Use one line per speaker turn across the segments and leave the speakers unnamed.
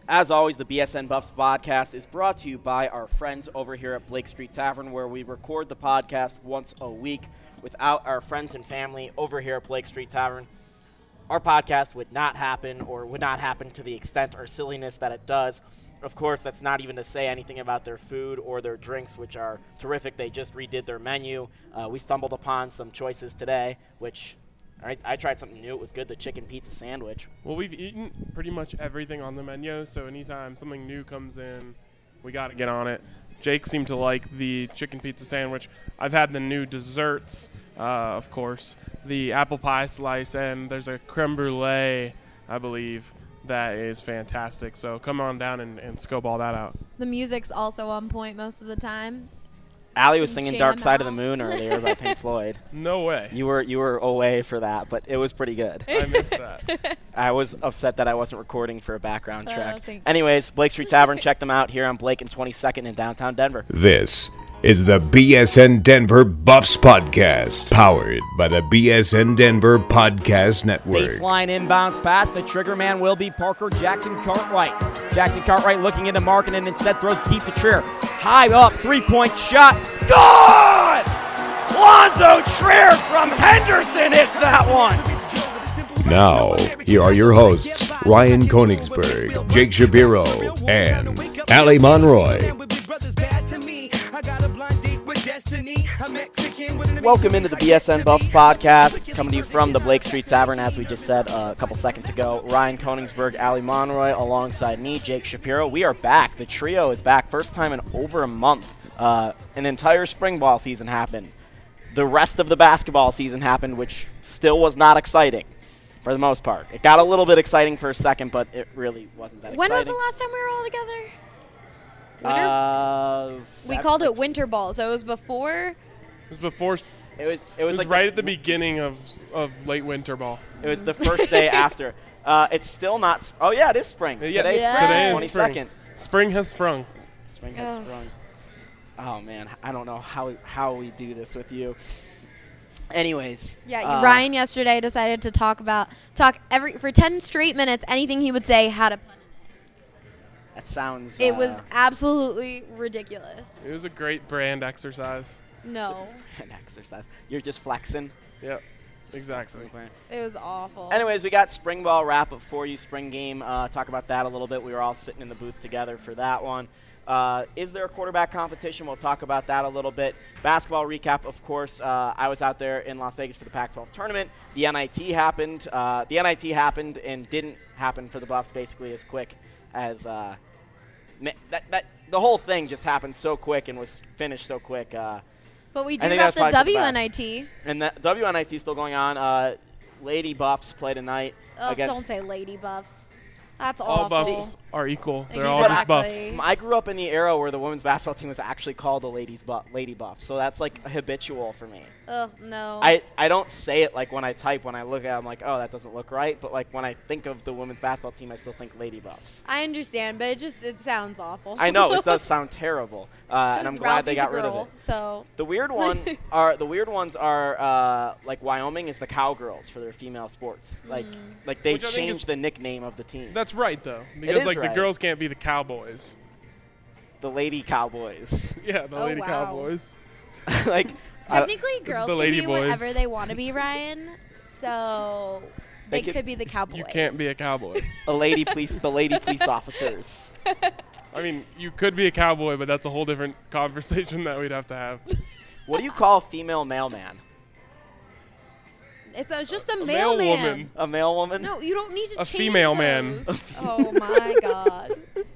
As always, the BSN Buffs podcast is brought to you by our friends over here at Blake Street Tavern, where we record the podcast once a week. Without our friends and family over here at Blake Street Tavern, our podcast would not happen, or would not happen to the extent or silliness that it does. Of course, that's not even to say anything about their food or their drinks, which are terrific. They just redid their menu. We stumbled upon some choices today, which I tried something new. It was good, the chicken pizza sandwich.
Well, we've eaten pretty much everything on the menu, so anytime something new comes in, we got to get on it. Jake seemed to like the chicken pizza sandwich. I've had the new desserts, of course, the apple pie slice, and there's a creme brulee, I believe, that is fantastic. So come on down and scope all that out.
The music's also on point most of the time.
Allie was singing Dark Side of the Moon earlier by Pink Floyd.
No way.
You were away for that, but it was pretty good.
I missed that.
I was upset that I wasn't recording for a background track.
Thanks.
Anyways, Blake Street Tavern, check them out here on Blake and 22nd in downtown Denver.
This is the BSN Denver Buffs Podcast, powered by the BSN Denver Podcast Network.
Baseline inbounds pass. The trigger man will be Parker Jackson Cartwright. Jackson Cartwright looking into Markin and instead throws deep to Trier. High up, three-point shot. Good! Lonzo Trier from Henderson hits that one.
Now, here are your hosts, Ryan Konigsberg, Jake Shapiro, and Allie Monroy.
Welcome into the BSN Buffs podcast, coming to you from the Blake Street Tavern, as we just said a couple seconds ago. Ryan Konigsberg, Allie Monroy, alongside me, Jake Shapiro. We are back. The trio is back. First time in over a month. An entire spring ball season happened. The rest of the basketball season happened, which still was not exciting for the most part. It got a little bit exciting for a second, but it really wasn't that
When
exciting.
was the last time we were all together? Winter? We called it winter ball, so it was before.
It was before.
It was
It was
like
right at the beginning of late winter ball.
It was the first day after. It's still not. Oh yeah, it is spring.
Yeah,
Today's
Yes.
today is
22nd.
spring. Spring has sprung.
Spring has sprung. Oh man, I don't know how we do this with you. Anyways.
Yeah, Ryan yesterday decided to talk for 10 straight minutes. Anything he would say had a pun in it.
That sounds.
It was absolutely ridiculous.
It was a great brand exercise.
No,
an exercise. You're just flexing.
Yep, exactly.
it was awful.
Anyways, we got spring ball wrap up for you. Spring game. Talk about that a little bit. We were all sitting in the booth together for that one. Is there a quarterback competition? We'll talk about that a little bit. Basketball recap, of course. I was out there in Las Vegas for the Pac-12 tournament. The NIT happened. The NIT happened and didn't happen for the Buffs basically as quick as the whole thing just happened so quick and was finished so quick.
But we do got the WNIT.
And the WNIT is still going on. Lady Buffs play tonight.
Don't say Lady Buffs. That's
All
awful.
Buffs are equal. They're
Exactly.
all just Buffs.
I grew up in the era where the women's basketball team was actually called the Lady Buffs, so that's like habitual for me.
Ugh, no.
I don't say it like when I type. When I look at it, I'm like, oh, that doesn't look right. But like when I think of the women's basketball team, I still think Lady Buffs.
I understand, but it sounds awful.
I know it does sound terrible, and I'm glad they got rid of it.
So
The weird ones are like Wyoming is the Cowgirls for their female sports. Like they
Which I think is-
changed the nickname of the team.
That's right, though, because
is
like
right.
the girls can't be the Cowboys.
The Lady Cowboys.
Yeah, the
Oh,
Lady
wow.
Cowboys.
Like
technically, girls
the
can
Lady
be
Boys.
whatever they want to be, Ryan. So
They
they
could-
could be the Cowboys.
You can't be a cowboy.
the lady police officers.
I mean, you could be a cowboy, but that's a whole different conversation that we'd have to have.
What do you call a female mailman?
It's just a
male
mailman.
woman.
A male woman?
No, you don't need to
A
change
female man.
those. Oh my God.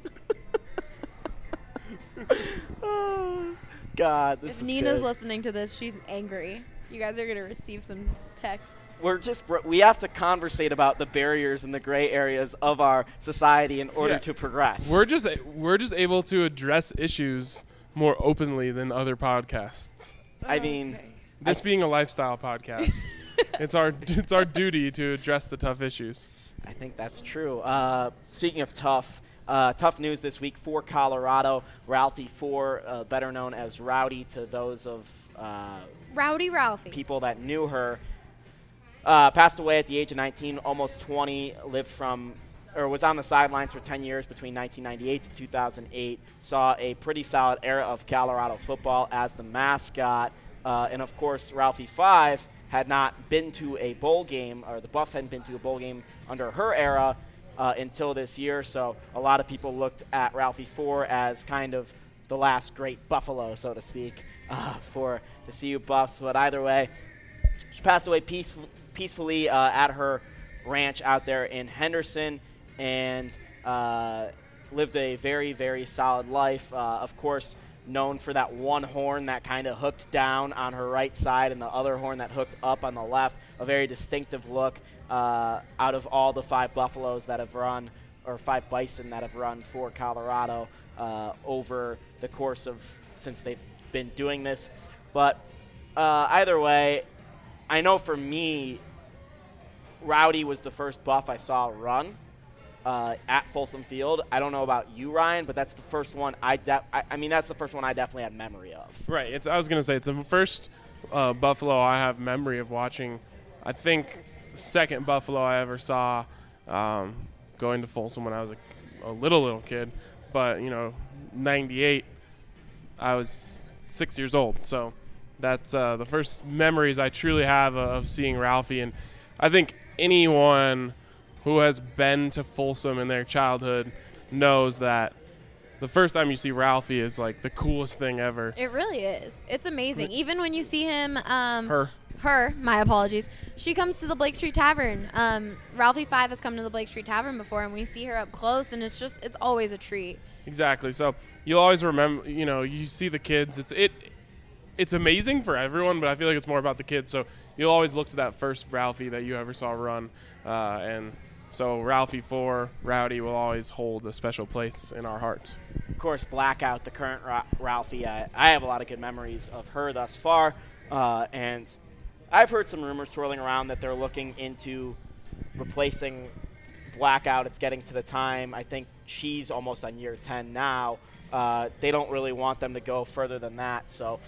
God, this
If
is
Nina's
good.
listening to this, she's angry. You guys are gonna receive some texts.
We have to conversate about the barriers and the gray areas of our society in order
Yeah.
to progress.
We're just able to address issues more openly than other podcasts.
I mean,
This being a lifestyle podcast, it's our duty to address the tough issues.
I think that's true. Speaking of tough news this week for Colorado. Ralphie Ford, better known as Rowdy to those of
Rowdy Ralphie.
people that knew her, passed away at the age of 19, almost 20, lived from was on the sidelines for 10 years between 1998 to 2008, saw a pretty solid era of Colorado football as the mascot. And, of course, Ralphie 5 had not been to a bowl game, or the Buffs hadn't been to a bowl game under her era until this year. So a lot of people looked at Ralphie 4 as kind of the last great Buffalo, so to speak, for the CU Buffs. But either way, she passed away peacefully at her ranch out there in Henderson, and lived a very, very solid life. Of course, known for that one horn that kind of hooked down on her right side and the other horn that hooked up on the left. A very distinctive look out of all the 5 Buffaloes that have run, or 5 Bison that have run for Colorado over the course of since they've been doing this. But either way, I know for me, Rowdy was the first Buff I saw run at Folsom Field. I don't know about you, Ryan, but that's the first one that's the first one I definitely had memory of.
Right. I was going to say, it's the first Buffalo I have memory of watching. I think second Buffalo I ever saw going to Folsom when I was a little kid. But, 98, I was 6 years old. So that's the first memories I truly have of seeing Ralphie. And I think anyone who has been to Folsom in their childhood knows that the first time you see Ralphie is like the coolest thing ever.
It really is. It's amazing. Even when you see him,
Her,
my apologies. She comes to the Blake Street Tavern. Ralphie 5 has come to the Blake Street Tavern before, and we see her up close, and it's always a treat.
Exactly. So you'll always remember, you see the kids. It's amazing for everyone, but I feel like it's more about the kids. So you'll always look to that first Ralphie that you ever saw run, and so Ralphie 4, Rowdy will always hold a special place in our hearts.
Of course, Blackout, the current Ralphie, I have a lot of good memories of her thus far, and I've heard some rumors swirling around that they're looking into replacing Blackout. It's getting to the time. I think she's almost on year 10 now. They don't really want them to go further than that. So,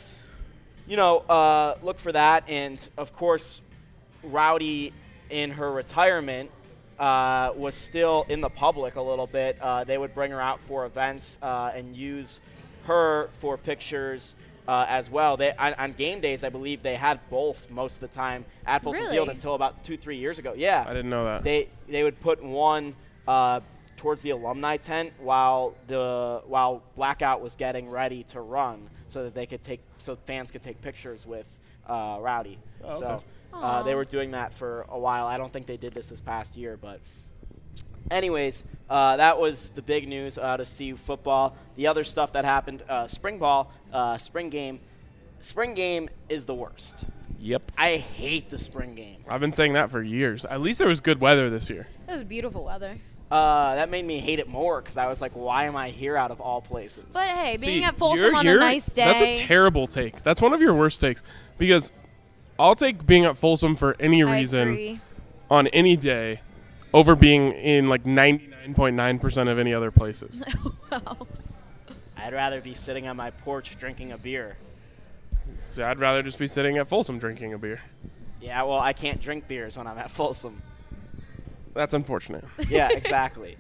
look for that. And, of course, Rowdy in her retirement was still in the public a little bit. They would bring her out for events and use her for pictures as well. On game days, I believe they had both most of the time at Folsom Field until about 2-3 years ago. Yeah,
I didn't know that.
They would put one towards the alumni tent while Blackout was getting ready to run, so that fans could take pictures with Rowdy.
Oh,
so.
okay.
They were doing that for a while. I don't think they did this past year, but anyways, that was the big news out of CU football. The other stuff that happened, spring ball, spring game. Spring game is the worst.
Yep.
I hate the spring game.
I've been saying that for years. At least there was good weather this year.
It was beautiful weather.
That made me hate it more because I was like, why am I here out of all places?
But hey, being
See,
at Folsom on a nice day.
That's a terrible take. That's one of your worst takes, because I'll take being at Folsom for any reason on any day over being in like 99.9% of any other places.
Wow.
I'd rather be sitting on my porch drinking a beer.
So I'd rather just be sitting at Folsom drinking a beer.
Yeah, well, I can't drink beers when I'm at Folsom.
That's unfortunate.
Yeah, exactly.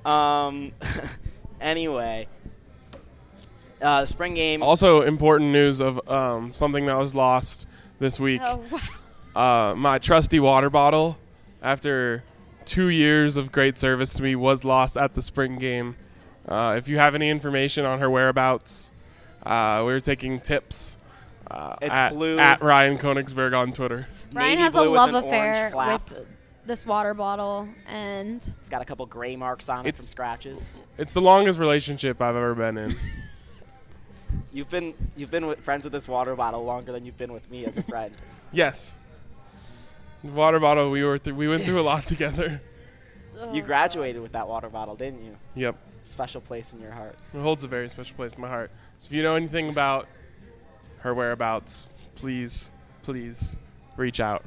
Anyway, the spring game.
Also, important news of something that was lost this week.
Oh, wow.
My trusty water bottle, after 2 years of great service to me, was lost at the spring game. If you have any information on her whereabouts, we were taking tips
It's blue.
at Ryan Konigsberg on Twitter.
Ryan
Navy
has a
blue with
love
an
affair
orange flap.
with this water bottle, and
It's got a couple gray marks on it
It's-
from scratches.
It's the longest relationship I've ever been in.
You've been friends with this water bottle longer than you've been with me as a friend.
Yes. The water bottle, we went through a lot together.
You graduated with that water bottle, didn't you?
Yep.
Special place in your heart.
It holds a very special place in my heart. So if you know anything about her whereabouts, please reach out.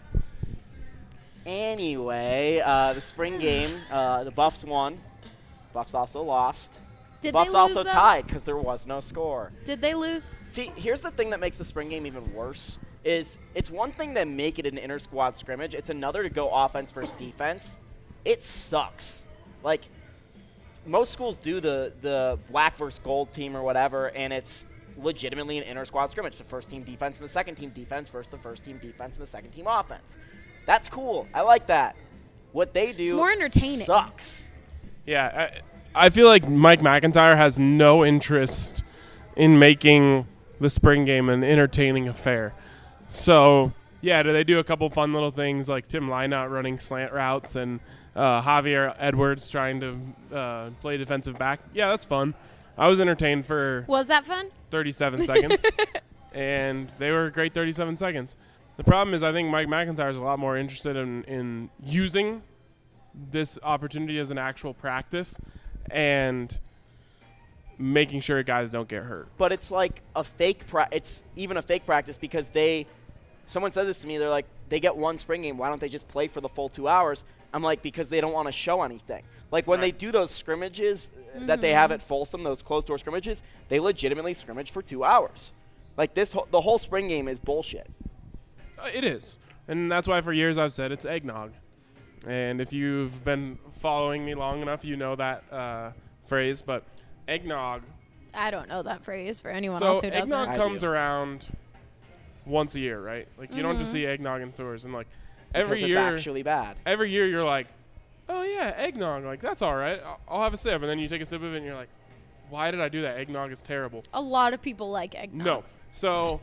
Anyway, the spring game, the Buffs won. Buffs also lost.
did
Buffs
they lose
also
though?
tied because there was no score.
Did they lose?
See, here's the thing that makes the spring game even worse is it's one thing to make it an inter-squad scrimmage. It's another to go offense versus defense. It sucks. Like, most schools do the black versus gold team or whatever, and it's legitimately an inter-squad scrimmage. The first team defense and the second team defense versus the first team defense and the second team offense. That's cool. I like that. What they do
It's more entertaining.
sucks.
Yeah, I feel like Mike McIntyre has no interest in making the spring game an entertaining affair. So, yeah, do they do a couple fun little things like Tim Lynott running slant routes and Javier Edwards trying to play defensive back? Yeah, that's fun. I was entertained for
Was that fun?
37 seconds, and they were a great 37 seconds. The problem is I think Mike McIntyre is a lot more interested in using this opportunity as an actual practice and making sure guys don't get hurt.
But it's like a fake it's even a fake practice because someone said this to me, they're like, they get one spring game, why don't they just play for the full 2 hours? I'm like, because they don't want to show anything. Like when they do those scrimmages that they have at Folsom, those closed-door scrimmages, they legitimately scrimmage for 2 hours. Like the whole spring game is bullshit.
It is. And that's why for years I've said it's eggnog. And if you've been following me long enough, you know that phrase. But eggnog.
I don't know that phrase for anyone else who doesn't.
Eggnog comes around once a year, right? Like you don't just see eggnog in stores. And like every
Because
year.
it's actually bad.
Every year you're like, oh yeah, eggnog. Like that's all right. I'll have a sip. And then you take a sip of it and you're like, why did I do that? Eggnog is terrible.
A lot of people like eggnog.
No. So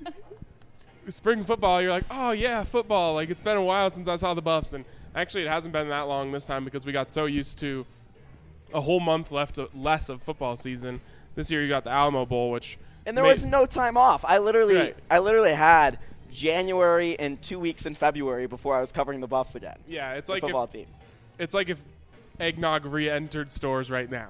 spring football, you're like, oh yeah, football. Like it's been a while since I saw the Buffs, and actually it hasn't been that long this time because we got so used to a whole month less of football season. This year you got the Alamo Bowl, which
And there was no time off. I literally had January and 2 weeks in February before I was covering the Buffs again.
Yeah, it's
the
like
football team.
It's like if eggnog re-entered stores right now.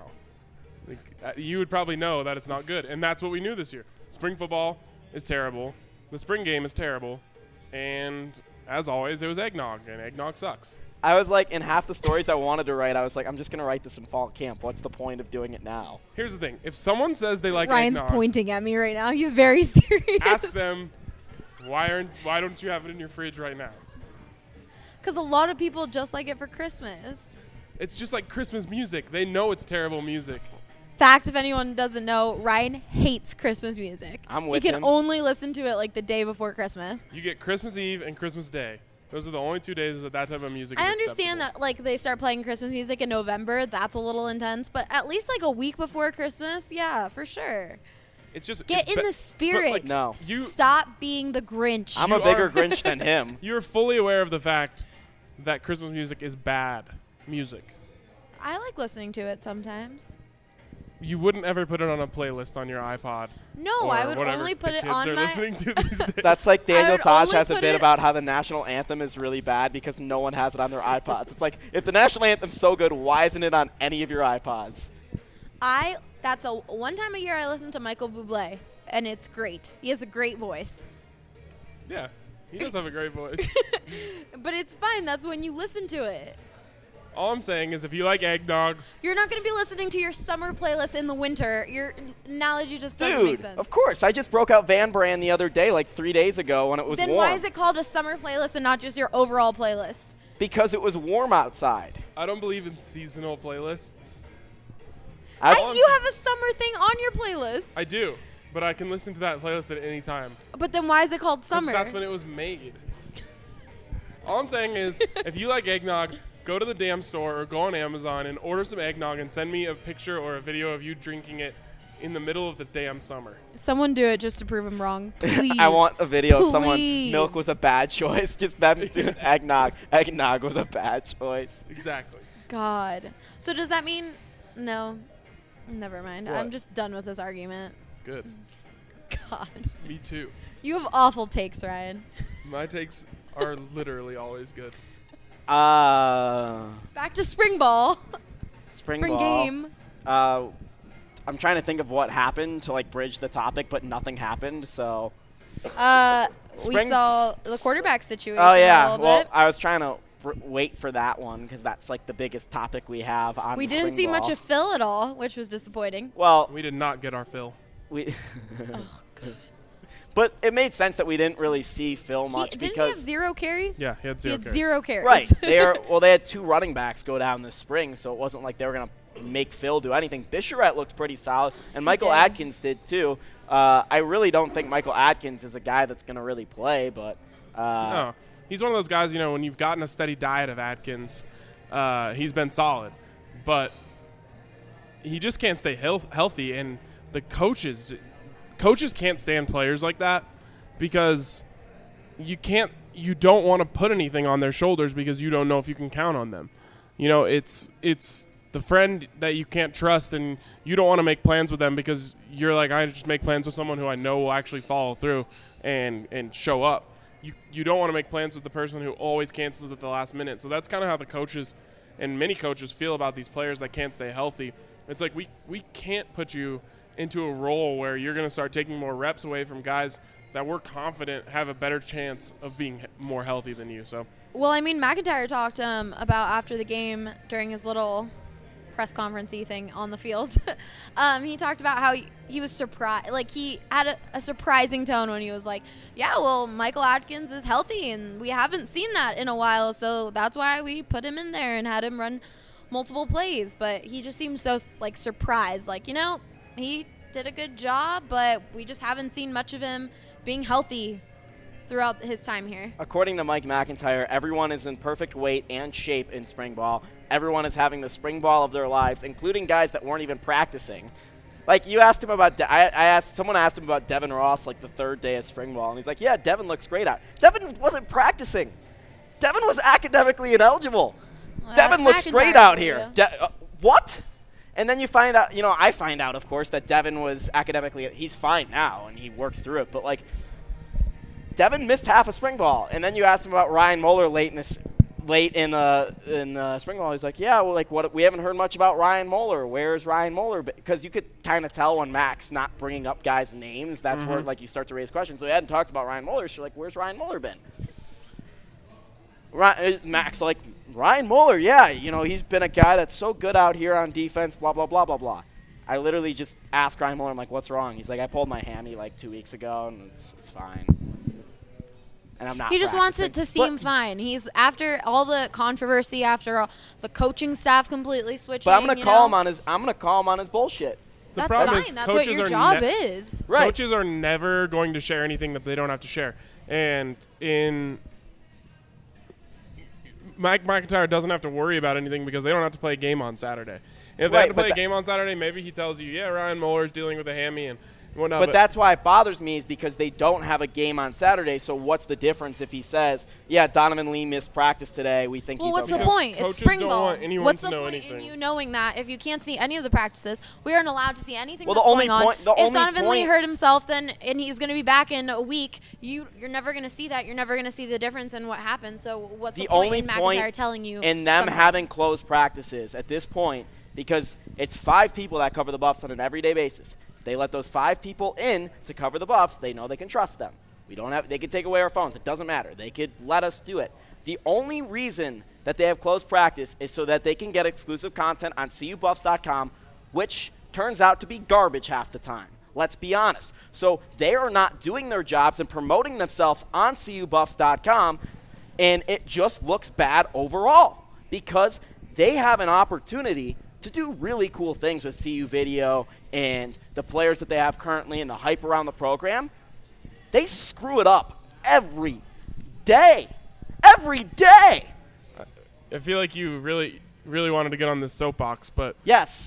Like, you would probably know that it's not good, and that's what we knew this year. Spring football is terrible. The spring game is terrible, and as always, it was eggnog, and eggnog sucks.
I was like, in half the stories I wanted to write, I was like, I'm just going to write this in fall camp. What's the point of doing it now?
Here's the thing. If someone says they like
Ryan's
eggnog,
pointing at me right now. He's very serious.
ask them, why don't you have it in your fridge right now?
Because a lot of people just like it for Christmas.
It's just like Christmas music. They know it's terrible music.
Fact, if anyone doesn't know, Ryan hates Christmas music.
I'm with
He can
him.
only listen to it like the day before Christmas.
You get Christmas Eve and Christmas Day. Those are the only 2 days that type of music is
I understand
acceptable.
that like they start playing Christmas music in November. That's a little intense, but at least like a week before Christmas, yeah, for sure.
It's just
Get
it's
in the spirit.
like,
No.
Stop being the Grinch.
I'm
You
a bigger
are-
Grinch than him.
You're fully aware of the fact that Christmas music is bad music.
I like listening to it sometimes.
You wouldn't ever put it on a playlist on your iPod.
No,
or
I would
whatever
only put
the
it
kids
on
are
my.
listening to these days.
That's like Daniel
would
Tosh
only
has a
put
bit
it-
about how the national anthem is really bad because no one has it on their iPods. It's like, if the national anthem's so good, why isn't it on any of your iPods?
That's one time a year I listen to Michael Bublé, and it's great. He has a great voice.
Yeah, he does have a great voice.
But it's fine. That's when you listen to it.
All I'm saying is if you like eggnog,
You're not going to be listening to your summer playlist in the winter. Your analogy just doesn't make
Dude,
sense.
of course. I just broke out Van Brand the other day, like 3 days ago when it was
Then
warm.
why is it called a summer playlist and not just your overall playlist?
Because it was warm outside.
I don't believe in seasonal playlists.
You have a summer thing on your playlist.
I do, but I can listen to that playlist at any time.
But then why is it called
'Cause
summer?
that's when it was made. All I'm saying is, if you like eggnog, go to the damn store or go on Amazon and order some eggnog and send me a picture or a video of you drinking it in the middle of the damn summer.
Someone do it just to prove him wrong. Please.
I want a video of someone,
Please.
milk was a bad choice. Just them doing eggnog. Eggnog was a bad choice.
Exactly.
God. So does that mean no? Never mind.
What?
I'm just done with this argument.
Good.
God.
Me too.
You have awful takes, Ryan.
My takes are literally always good.
Back to spring ball.
Spring
Spring
ball.
game.
I'm trying to think of what happened to like bridge the topic, but nothing happened. So.
We
Spring-
saw the quarterback situation
Oh
a
yeah.
little
Well,
bit.
I was trying to wait for that one because that's like the biggest topic we have on.
We
the
didn't
spring
see much
ball.
of Phil at all, which was disappointing.
Well,
We did not get our fill.
we. But it made sense that we didn't really see Phil much
Didn't he
because
have 0 carries?
Yeah, he had zero carries.
0 carries.
right. They had 2 running backs go down this spring, so it wasn't like they were going to make Phil do anything. Bicheret looked pretty solid, and Michael
did.
Adkins did too. I really don't think Michael Adkins is a guy that's going to really play, but
No, he's one of those guys, when you've gotten a steady diet of Atkins, he's been solid. But he just can't stay healthy, and the coaches can't stand players like that because you don't want to put anything on their shoulders because you don't know if you can count on them. It's the friend that you can't trust, and you don't want to make plans with them because you're like, I just make plans with someone who I know will actually follow through and show up. You don't want to make plans with the person who always cancels at the last minute. So that's kind of how the coaches and many coaches feel about these players that can't stay healthy. It's like we can't put you into a role where you're going to start taking more reps away from guys that we're confident have a better chance of being more healthy than you. So,
Well, I mean, McIntyre talked about after the game during his little press conference-y thing on the field. He talked about how he was surprised. Like, he had a surprising tone when he was like, yeah, well, Michael Adkins is healthy, and we haven't seen that in a while, so that's why we put him in there and had him run multiple plays. But he just seemed so, like, surprised. Like, he did a good job, but we just haven't seen much of him being healthy throughout his time here.
according to Mike McIntyre, everyone is in perfect weight and shape in spring ball. Everyone is having the spring ball of their lives, including guys that weren't even practicing. Like, you asked him about someone asked him about Devin Ross, like, the 3rd day of spring ball, and he's like, yeah, Devin looks great out. Devin wasn't practicing. Devin was academically ineligible.
Well,
Devin
that's
looks great
McIntyre
out
for
here.
you.
What? And then you find out, I find out, of course, that Devin was academically, he's fine now, and he worked through it. But, like, Devin missed half a spring ball. And then you asked him about Ryan Moeller late in the spring ball. He's like, yeah, well, like, what? We haven't heard much about Ryan Moeller. Where's Ryan Moeller? Because you could kind of tell when Mac's not bringing up guys' names. That's where, like, you start to raise questions. So he hadn't talked about Ryan Moeller. So you're like, where's Ryan Moeller been? Mac's like, Ryan Moeller, yeah, he's been a guy that's so good out here on defense, blah, blah, blah, blah, blah. I literally just asked Ryan Moeller, I'm like, what's wrong? He's like, I pulled my hammy like 2 weeks ago, and it's fine. And I'm not
He just wants
practicing.
it to seem fine. He's after all the controversy, after all the coaching staff completely switching.
But I'm gonna call him on his bullshit.
The
That's
problem
fine.
is
That's what
coaches
your
are
job is.
Right.
Coaches are never going to share anything that they don't have to share. And Mike McIntyre doesn't have to worry about anything because they don't have to play a game on Saturday. If they
Right,
had to
but
play a game on Saturday, maybe he tells you, yeah, Ryan Moeller's dealing with a hammy and whatnot.
But that's why it bothers me is because they don't have a game on Saturday. So what's the difference if he says, yeah, Donovan Lee missed practice today. We think
Well,
he's
what's
okay.
the point?
Coaches
It's spring
don't
ball.
want anyone
What's
to
the
know
point
anything.
in you knowing that if you can't see any of the practices, we aren't allowed to see anything
Well,
that's
the only
going
point-
on?
the
If
only
Donovan Lee
point-
hurt himself, and he's going to be back in a week, you're never going to see that. You're never going to see the difference in what happened. So what's the point
only
in
point
McIntyre telling you
in them
something?
having closed practices at this point, because it's 5 people that cover the Buffs on an everyday basis. If they let those 5 people in to cover the Buffs, they know they can trust them. They can take away our phones. It doesn't matter. They could let us do it. The only reason that they have closed practice is so that they can get exclusive content on CUBuffs.com, which turns out to be garbage half the time. Let's be honest. So they are not doing their jobs and promoting themselves on CUBuffs.com, and it just looks bad overall because they have an opportunity to do really cool things with CU Video and the players that they have currently and the hype around the program. They screw it up every day. Every day.
I feel like you really, really wanted to get on this soapbox, but
Yes.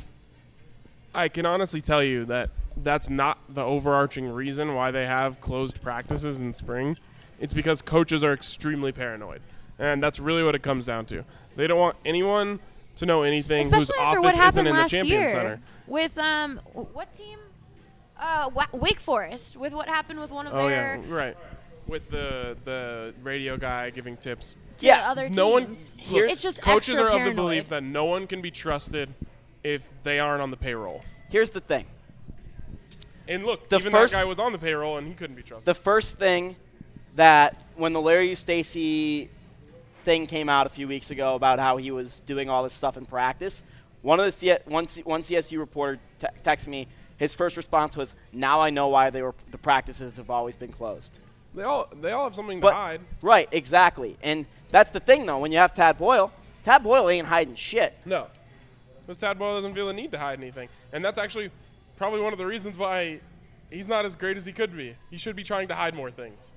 I can honestly tell you that that's not the overarching reason why they have closed practices in spring. It's because coaches are extremely paranoid. And that's really what it comes down to. They don't want anyone to know anything
Especially
whose
after what
office isn't
happened
in the
last
Champion
year
Center.
with what team? Wake Forest. With what happened with one of
Oh,
their
yeah, right. With the radio guy giving tips.
to
Yeah,
other
No one
teams.
look,
It's just
coaches
extra
are of the
paranoid.
belief that no one can be trusted if they aren't on the payroll.
Here's the thing.
And look,
The
even
first-
that guy was on the payroll and he couldn't be
The
trusted.
first thing that when the Larry Stacey thing came out a few weeks ago about how he was doing all this stuff in practice, One CSU reporter texted me. His first response was, "Now I know why the practices have always been closed."
They all have something to hide.
Right, exactly. And that's the thing, though. When you have Tad Boyle ain't hiding shit.
No. Because Tad Boyle doesn't feel the need to hide anything. And that's actually probably one of the reasons why he's not as great as he could be. He should be trying to hide more things.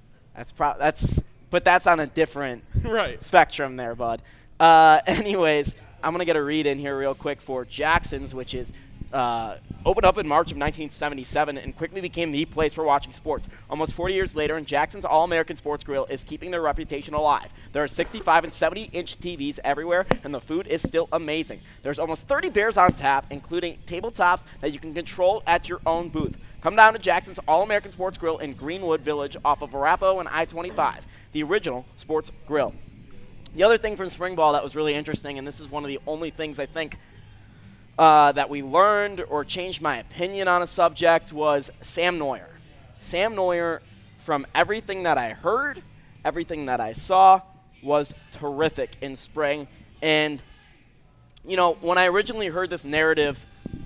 But that's on a different
right.
spectrum there, bud. Anyways, I'm going to get a read in here real quick for Jackson's, which is opened up in March of 1977 and quickly became the place for watching sports. Almost 40 years later, and Jackson's All-American Sports Grill is keeping their reputation alive. There are 65 and 70-inch TVs everywhere, and the food is still amazing. There's almost 30 beers on tap, including tabletops that you can control at your own booth. Come down to Jackson's All-American Sports Grill in Greenwood Village off of Arapahoe and I-25, the original sports grill. The other thing from spring ball that was really interesting, and this is one of the only things I think that we learned or changed my opinion on a subject, was Sam Noyer. Sam Noyer, from everything that I heard, everything that I saw, was terrific in spring. And, you know, when I originally heard this narrative,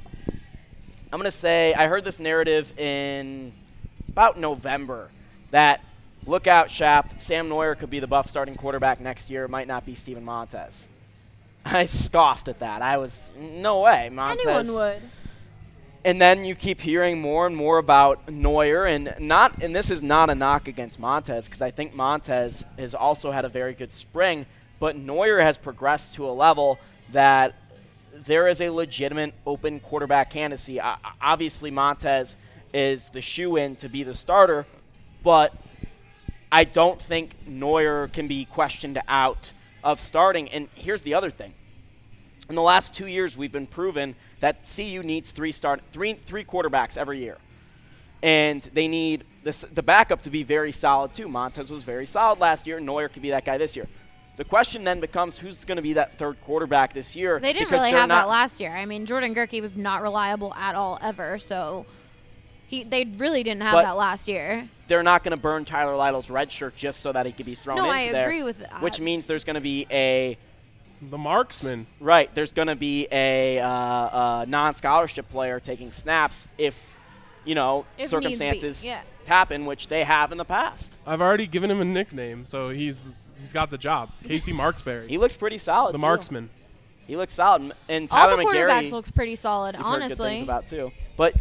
I'm going to say I heard this narrative in about November that, look out, Shap, Sam Noyer could be the Buff starting quarterback next year. It might not be Steven Montez. I scoffed at that. I was, no way, Montez.
Anyone would.
And then you keep hearing more and more about Noyer, and this is not a knock against Montez, because I think Montez has also had a very good spring, but Noyer has progressed to a level that there is a legitimate open quarterback candidacy. Obviously, Montez is the shoe-in to be the starter, but I don't think Noyer can be questioned out of starting. And here's the other thing. In the last 2 years, we've been proven that CU needs three quarterbacks every year. And they need the backup to be very solid, too. Montez was very solid last year. Noyer could be that guy this year. The question then becomes, who's going to be that third quarterback this year?
They didn't really have that last year. I mean, Jordan Gerke was not reliable at all ever, so they really didn't have that last year.
They're not going to burn Tyler Lytle's red shirt just so that he could be thrown into there.
No, I agree with that.
Which means there's going to be the
marksman.
Right. There's going to be a non-scholarship player taking snaps if circumstances happen, which they have in the past.
I've already given him a nickname, so he's got the job. Casey Marksberry.
He looks pretty solid,
the marksman.
He looks solid. And Tyler
McGarry, all the quarterbacks looks pretty solid,
you've
honestly.
Heard good things about, too. But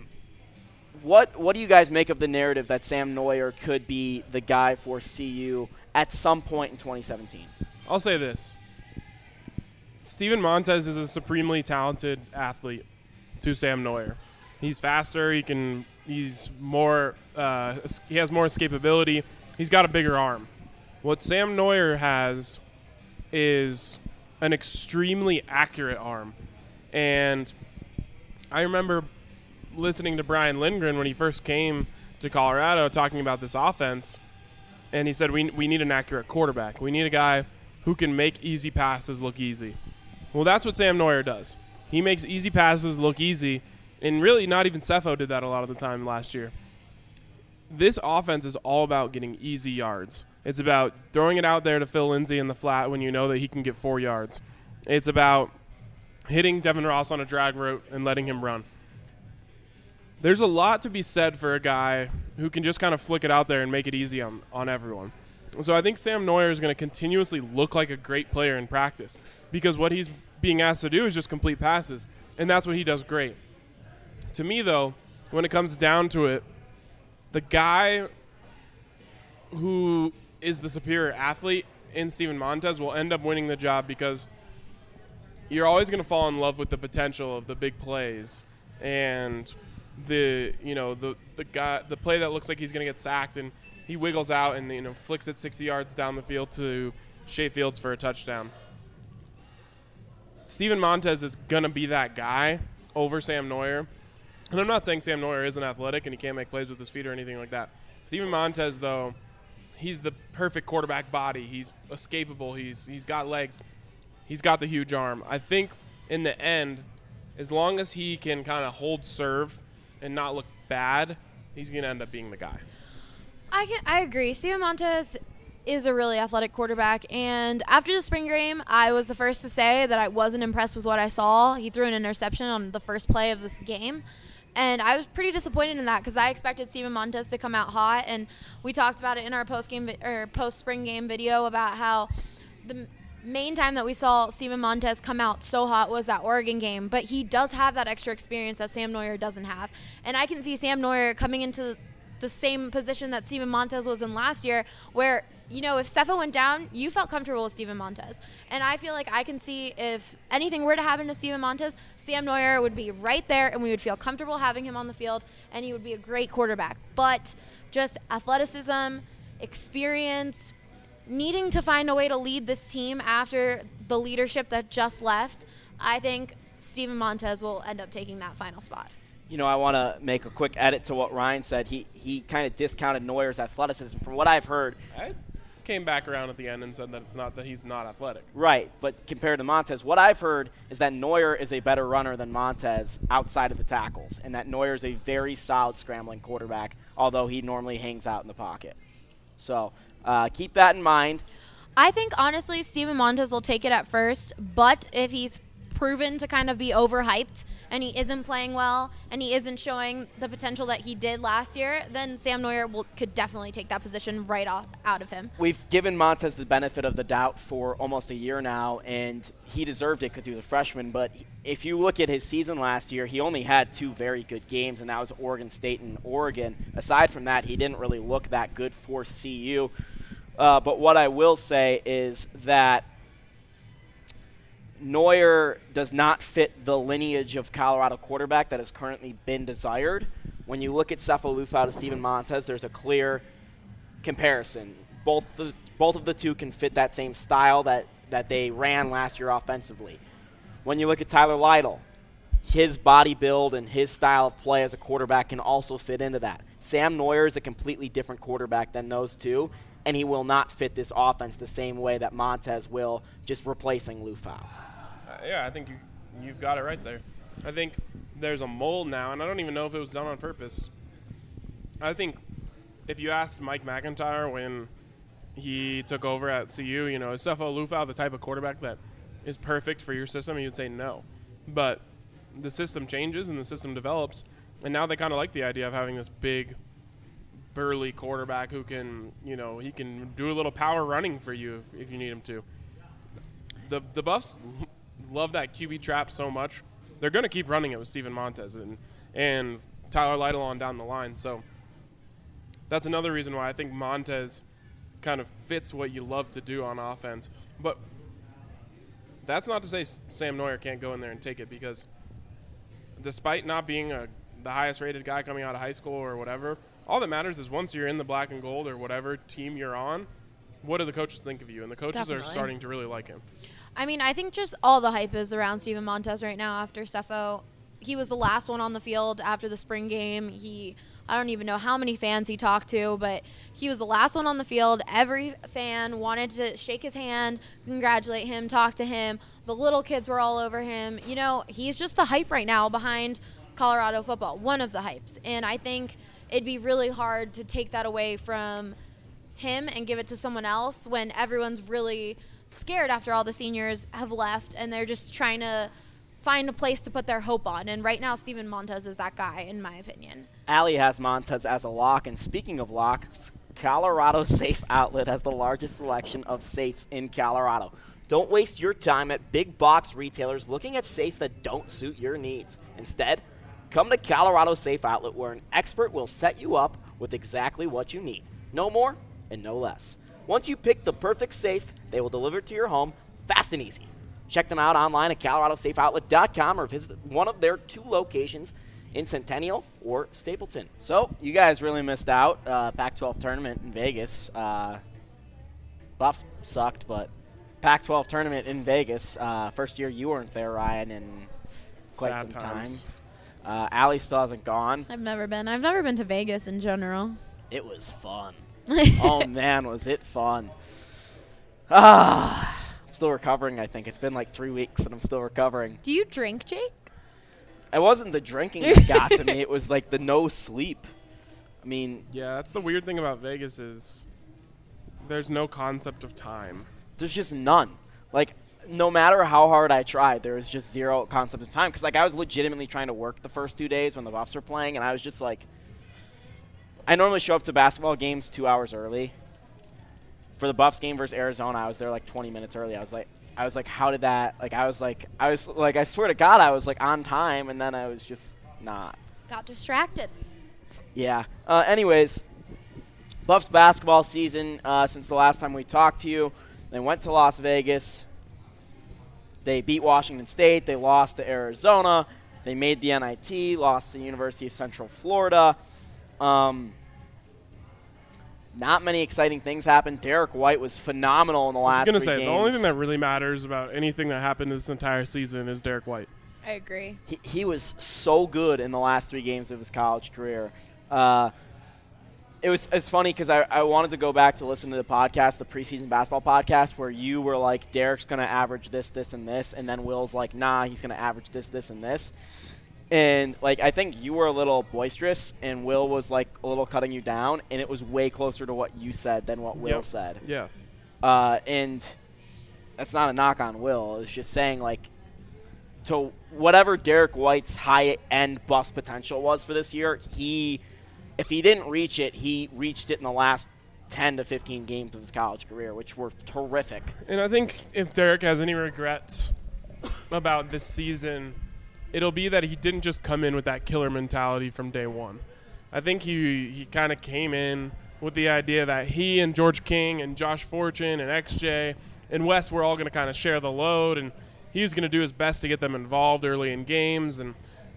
what do you guys make of the narrative that Sam Noyer could be the guy for CU at some point in 2017?
I'll say this. Steven Montez is a supremely talented athlete to Sam Noyer. He's faster. He's more. He has more escapability. He's got a bigger arm. What Sam Noyer has is an extremely accurate arm. And I remember listening to Brian Lindgren when he first came to Colorado talking about this offense, and he said, we need an accurate quarterback. We need a guy who can make easy passes look easy. Well, that's what Sam Noyer does. He makes easy passes look easy, and really not even Cepho did that a lot of the time last year. This offense is all about getting easy yards. It's about throwing it out there to Phil Lindsay in the flat when you know that he can get 4 yards. It's about hitting Devin Ross on a drag route and letting him run. There's a lot to be said for a guy who can just kind of flick it out there and make it easy on everyone. So I think Sam Noyer is going to continuously look like a great player in practice because what he's being asked to do is just complete passes, and that's what he does great. To me, though, when it comes down to it, the guy who is the superior athlete in Steven Montez will end up winning the job because you're always going to fall in love with the potential of the big plays and the play that looks like he's going to get sacked and he wiggles out and flicks it 60 yards down the field to Shea Fields for a touchdown. Steven Montez is going to be that guy over Sam Noyer. And I'm not saying Sam Noyer isn't athletic and he can't make plays with his feet or anything like that. Steven Montez, though, he's the perfect quarterback body. He's escapable. He's got legs. He's got the huge arm. I think in the end, as long as he can kind of hold serve and not look bad, he's going to end up being the guy.
I agree. Steven Montez is a really athletic quarterback. And after the spring game, I was the first to say that I wasn't impressed with what I saw. He threw an interception on the first play of this game. And I was pretty disappointed in that because I expected Steven Montez to come out hot. And we talked about it in our post-spring game video about how the main time that we saw Steven Montez come out so hot was that Oregon game. But he does have that extra experience that Sam Noyer doesn't have. And I can see Sam Noyer coming into the same position that Steven Montez was in last year where, you know, if Cepho went down, you felt comfortable with Steven Montez. And I feel like I can see if anything were to happen to Steven Montez, Sam Noyer would be right there and we would feel comfortable having him on the field and he would be a great quarterback. But just athleticism, experience, needing to find a way to lead this team after the leadership that just left, I think Steven Montez will end up taking that final spot.
You know, I want to make a quick edit to what Ryan said. He kind of discounted Noyer's athleticism. From what I've heard,
I came back around at the end and said that it's not that he's not athletic.
Right, but compared to Montez, what I've heard is that Noyer is a better runner than Montez outside of the tackles, and that Noyer is a very solid scrambling quarterback, although he normally hangs out in the pocket. So keep that in mind.
I think, honestly, Steven Montez will take it at first, but if he's proven to kind of be overhyped and he isn't playing well and he isn't showing the potential that he did last year, then Sam Noyer could definitely take that position right out of him.
We've given Montez the benefit of the doubt for almost a year now, and he deserved it because he was a freshman. But if you look at his season last year, he only had 2 very good games, and that was Oregon State and Oregon. Aside from that, he didn't really look that good for CU. But what I will say is that Noyer does not fit the lineage of Colorado quarterback that has currently been desired. When you look at Cepho Lufau to Steven Montez, there's a clear comparison. Both of the two can fit that same style that they ran last year offensively. When you look at Tyler Lytle, his body build and his style of play as a quarterback can also fit into that. Sam Noyer is a completely different quarterback than those two, and he will not fit this offense the same way that Montez will, just replacing Lufau.
Yeah, I think you've got it right there. I think there's a mold now, and I don't even know if it was done on purpose. I think if you asked Mike McIntyre when he took over at CU, you know, is Cepho Lufau the type of quarterback that is perfect for your system? He would say no. But the system changes and the system develops, and now they kind of like the idea of having this big, burly quarterback who can, you know, he can do a little power running for you if you need him to. The Buffs love that QB trap so much, they're going to keep running it with Steven Montez and Tyler Lytle on down the line. So that's another reason why I think Montez kind of fits what you love to do on offense. But that's not to say Sam Noyer can't go in there and take it, because despite not being the highest rated guy coming out of high school or whatever, all that matters is once you're in the black and gold or whatever team you're on, what do the coaches think of you? And the coaches
Definitely
are starting to really like him.
I mean, I think just all the hype is around Steven Montez right now after Cepho. He was the last one on the field after the spring game. I don't even know how many fans he talked to, but he was the last one on the field. Every fan wanted to shake his hand, congratulate him, talk to him. The little kids were all over him. You know, he's just the hype right now behind Colorado football, one of the hypes. And I think it'd be really hard to take that away from him and give it to someone else when everyone's really scared after all the seniors have left and they're just trying to find a place to put their hope on. And right now, Steven Montez is that guy, in my opinion.
Allie has Montez as a lock, and speaking of locks, Colorado Safe Outlet has the largest selection of safes in Colorado. Don't waste your time at big box retailers looking at safes that don't suit your needs. Instead, come to Colorado Safe Outlet, where an expert will set you up with exactly what you need. No more and no less. Once you pick the perfect safe, they will deliver it to your home fast and easy. Check them out online at coloradosafeoutlet.com or visit one of their 2 locations in Centennial or Stapleton. So, you guys really missed out. Pac-12 tournament in Vegas. Buffs sucked, but Pac-12 tournament in Vegas. First year you weren't there, Ryan, in quite
Sad
some
times.
time. Allie still hasn't gone.
I've never been to Vegas in general.
It was fun. Oh, man, was it fun. I'm still recovering, I think. It's been like 3 weeks, and I'm still recovering.
Do you drink, Jake?
It wasn't the drinking that got to me. It was like the no sleep. I mean,
Yeah, that's the weird thing about Vegas is There's no concept of time.
There's just none. Like, no matter how hard I tried, there was just zero concept of time. Because, like, I was legitimately trying to work the first 2 days when the Buffs were playing, and I was just like, I normally show up to basketball games 2 hours early. For the Buffs game versus Arizona, I was there like 20 minutes early. I was like, how did that? Like, I swear to God, I was like on time, and then I was just not.
Got distracted.
Yeah. Anyways, Buffs basketball season since the last time we talked to you. They went to Las Vegas. They beat Washington State. They lost to Arizona. They made the NIT, lost to the University of Central Florida. Not many exciting things happened. Derek White was phenomenal in the last 3 games.
I was going to say, the only thing that really matters about anything that happened this entire season is Derek White.
I agree.
He was so good in the last 3 games of his college career. It's funny because I wanted to go back to listen to the podcast, the preseason basketball podcast, where you were like, Derek's going to average this, this, and this, and then Will's like, nah, he's going to average this, this, and this. And, like, I think you were a little boisterous, and Will was, like, a little cutting you down, and it was way closer to what you said than what Will said.
Yeah.
And that's not a knock on Will. It's just saying, like, to whatever Derek White's high-end bust potential was for this year, if he didn't reach it, he reached it in the last 10 to 15 games of his college career, which were terrific.
And I think if Derek has any regrets about this season, it'll be that he didn't just come in with that killer mentality from day one. I think he kind of came in with the idea that he and George King and Josh Fortune and XJ and Wes were all going to kind of share the load, and he was going to do his best to get them involved early in games. And,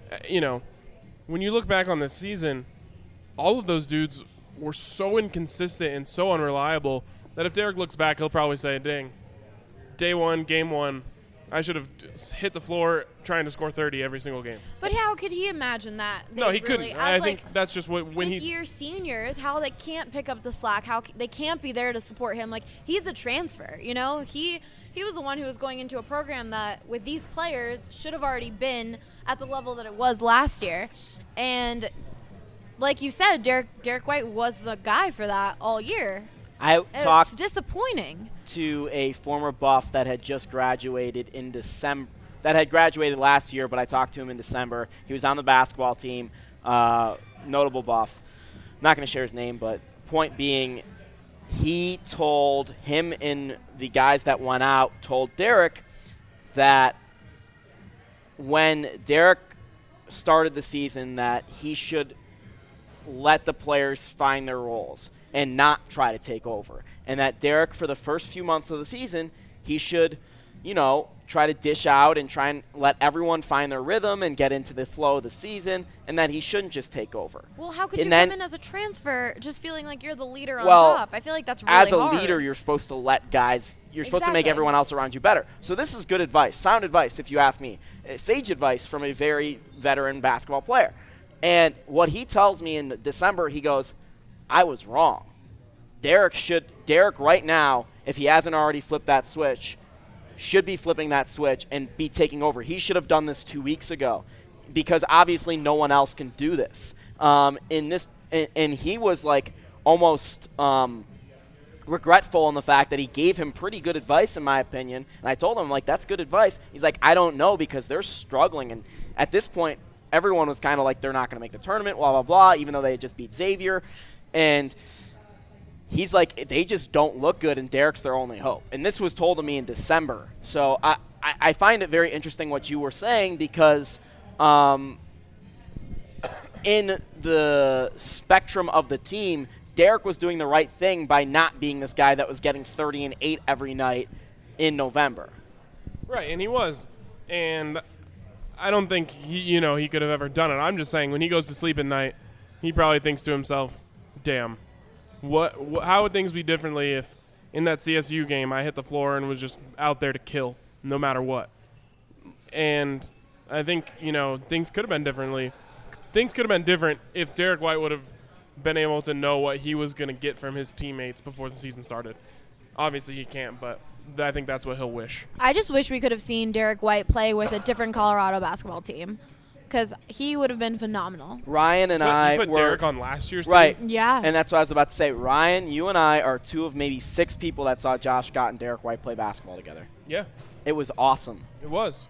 when you look back on this season, all of those dudes were so inconsistent and so unreliable that if Derek looks back, he'll probably say, dang, day one, game one, I should have hit the floor trying to score 30 every single game.
But how could he imagine that?
No, he couldn't. I think that's just when he's
fifth-year seniors, how they can't pick up the slack, how they can't be there to support him. Like, he's a transfer, He was the one who was going into a program that, with these players, should have already been at the level that it was last year. And like you said, Derek White was the guy for that all year.
It's
disappointing.
To a former Buff that had just graduated in December, that had graduated last year, but I talked to him in December. He was on the basketball team, notable Buff. I'm not going to share his name, but point being, he told him and the guys that went out told Derek that when Derek started the season that he should let the players find their roles and not try to take over. And that Derek, for the first few months of the season, he should, try to dish out and try and let everyone find their rhythm and get into the flow of the season, and that he shouldn't just take over.
Well, how could you come in as a transfer just feeling like you're the leader on top? I feel like that's really hard.
As a leader, you're supposed to let guys – you're supposed to make everyone else around you better. So this is good advice, sound advice if you ask me, sage advice from a very veteran basketball player. And what he tells me in December, he goes, I was wrong. Derek right now, if he hasn't already flipped that switch, should be flipping that switch and be taking over. He should have done this 2 weeks ago because obviously no one else can do this. And he was like almost regretful in the fact that he gave him pretty good advice, in my opinion. And I told him, like, that's good advice. He's like, I don't know because they're struggling. And at this point, everyone was kind of like, they're not going to make the tournament, blah, blah, blah, even though they had just beat Xavier. And he's like, they just don't look good, and Derek's their only hope. And this was told to me in December. So I find it very interesting what you were saying because in the spectrum of the team, Derek was doing the right thing by not being this guy that was getting 30 and 8 every night in November.
Right, and he was. And I don't think he could have ever done it. I'm just saying when he goes to sleep at night, he probably thinks to himself, damn, how would things be differently if in that CSU game I hit the floor and was just out there to kill no matter what? And I think, things could have been differently. Things could have been different if Derek White would have been able to know what he was going to get from his teammates before the season started. Obviously he can't, but I think that's what he'll wish.
I just wish we could have seen Derek White play with a different Colorado basketball team. because he would have been phenomenal.
Ryan and I
put
were
Derek on last year's
right.
team.
Yeah.
And that's what I was about to say. Ryan, you and I are 2 of maybe 6 people that saw Josh Scott and Derek White play basketball together.
Yeah,
It was awesome.
it was.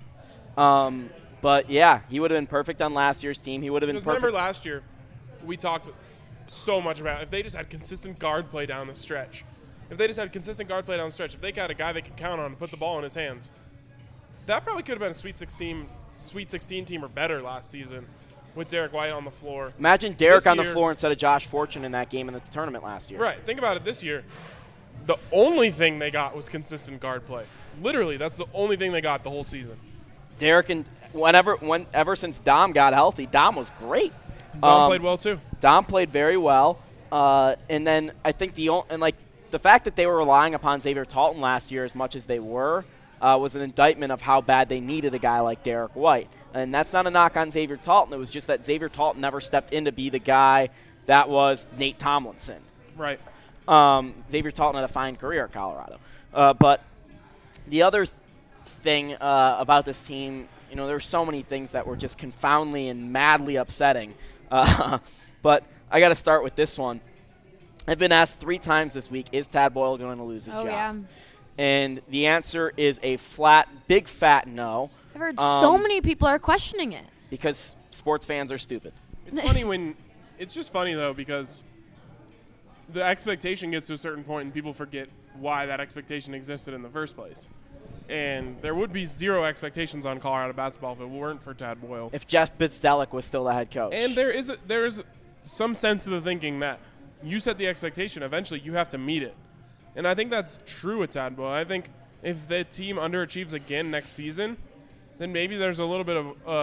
But yeah, he would have been perfect on last year's team. He would have been
Because
perfect.
remember last year, we talked so much about if they just had consistent guard play down the stretch. If they got a guy they could count on to put the ball in his hands, that probably could have been a Sweet 16 team or better last season with Derek White on the floor.
Imagine Derek
This
on the
year-
floor instead of Josh Fortune in that game in the tournament last year.
Right. Think about it this year. The only thing they got was consistent guard play. Literally, that's the only thing they got the whole season.
Derek and ever since Dom got healthy, Dom was great.
Dom played well too.
Dom played very well. And then I think the fact that they were relying upon Xavier Talton last year as much as they were was an indictment of how bad they needed a guy like Derek White. And that's not a knock on Xavier Talton. It was just that Xavier Talton never stepped in to be the guy that was Nate Tomlinson.
Right.
Xavier Talton had a fine career at Colorado. But the other thing about this team, there were so many things that were just confoundingly and madly upsetting. But I got to start with this one. I've been asked 3 times this week, is Tad Boyle going to lose his job?
Yeah.
And the answer is a big fat no.
I've heard so many people are questioning it.
Because sports fans are stupid.
It's just funny though because the expectation gets to a certain point and people forget why that expectation existed in the first place. And there would be 0 expectations on Colorado basketball if it weren't for Tad Boyle.
If Jeff Bzdelik was still the head coach.
And there is some sense of the thinking that you set the expectation, eventually you have to meet it. And I think that's true with Tad Boyle. I think if the team underachieves again next season, then maybe there's a little bit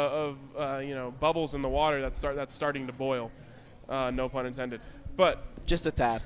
of bubbles in the water that's starting to boil. No pun intended. But
just a tad.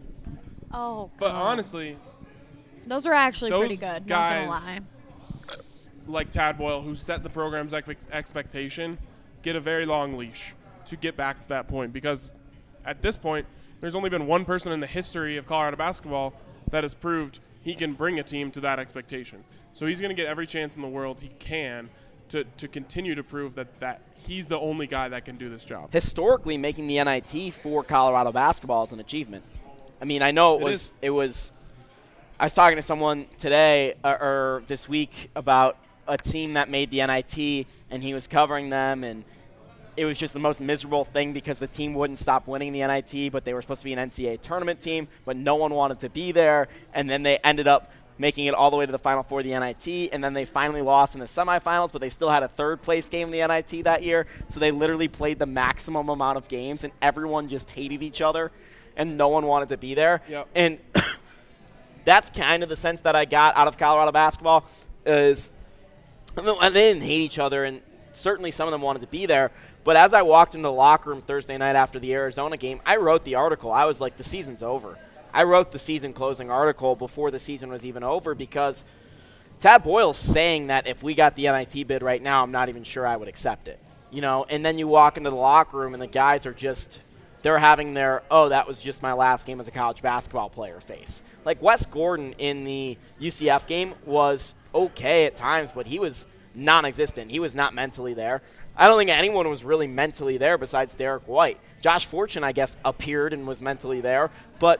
Oh,
But
God.
honestly,
those were actually pretty
those
good.
guys-
Not gonna lie.
like Tad Boyle, who set the program's expectation, get a very long leash to get back to that point. Because at this point, there's only been one person in the history of Colorado basketball that has proved he can bring a team to that expectation. So he's going to get every chance in the world he can to continue to prove that he's the only guy that can do this job.
Historically, making the NIT for Colorado basketball is an achievement. I mean, I know it was. I was talking to someone today or this week about a team that made the NIT, and he was covering them, and it was just the most miserable thing because the team wouldn't stop winning the NIT, but they were supposed to be an NCAA tournament team, but no one wanted to be there, and then they ended up making it all the way to the Final Four of the NIT, and then they finally lost in the semifinals, but they still had a third-place game in the NIT that year, so they literally played the maximum amount of games, and everyone just hated each other, and no one wanted to be there.
Yep.
And that's kind of the sense that I got out of Colorado basketball is they didn't hate each other, and certainly some of them wanted to be there. But as I walked into the locker room Thursday night after the Arizona game, I wrote the article. I was like, the season's over. I wrote the season-closing article before the season was even over because Tad Boyle's saying that if we got the NIT bid right now, I'm not even sure I would accept it. And then you walk into the locker room and the guys are just – they're having their, oh, that was just my last game as a college basketball player face. Like Wes Gordon in the UCF game was okay at times, but he was non-existent. He was not mentally there. I don't think anyone was really mentally there besides Derek White. Josh Fortune, I guess, appeared and was mentally there. But,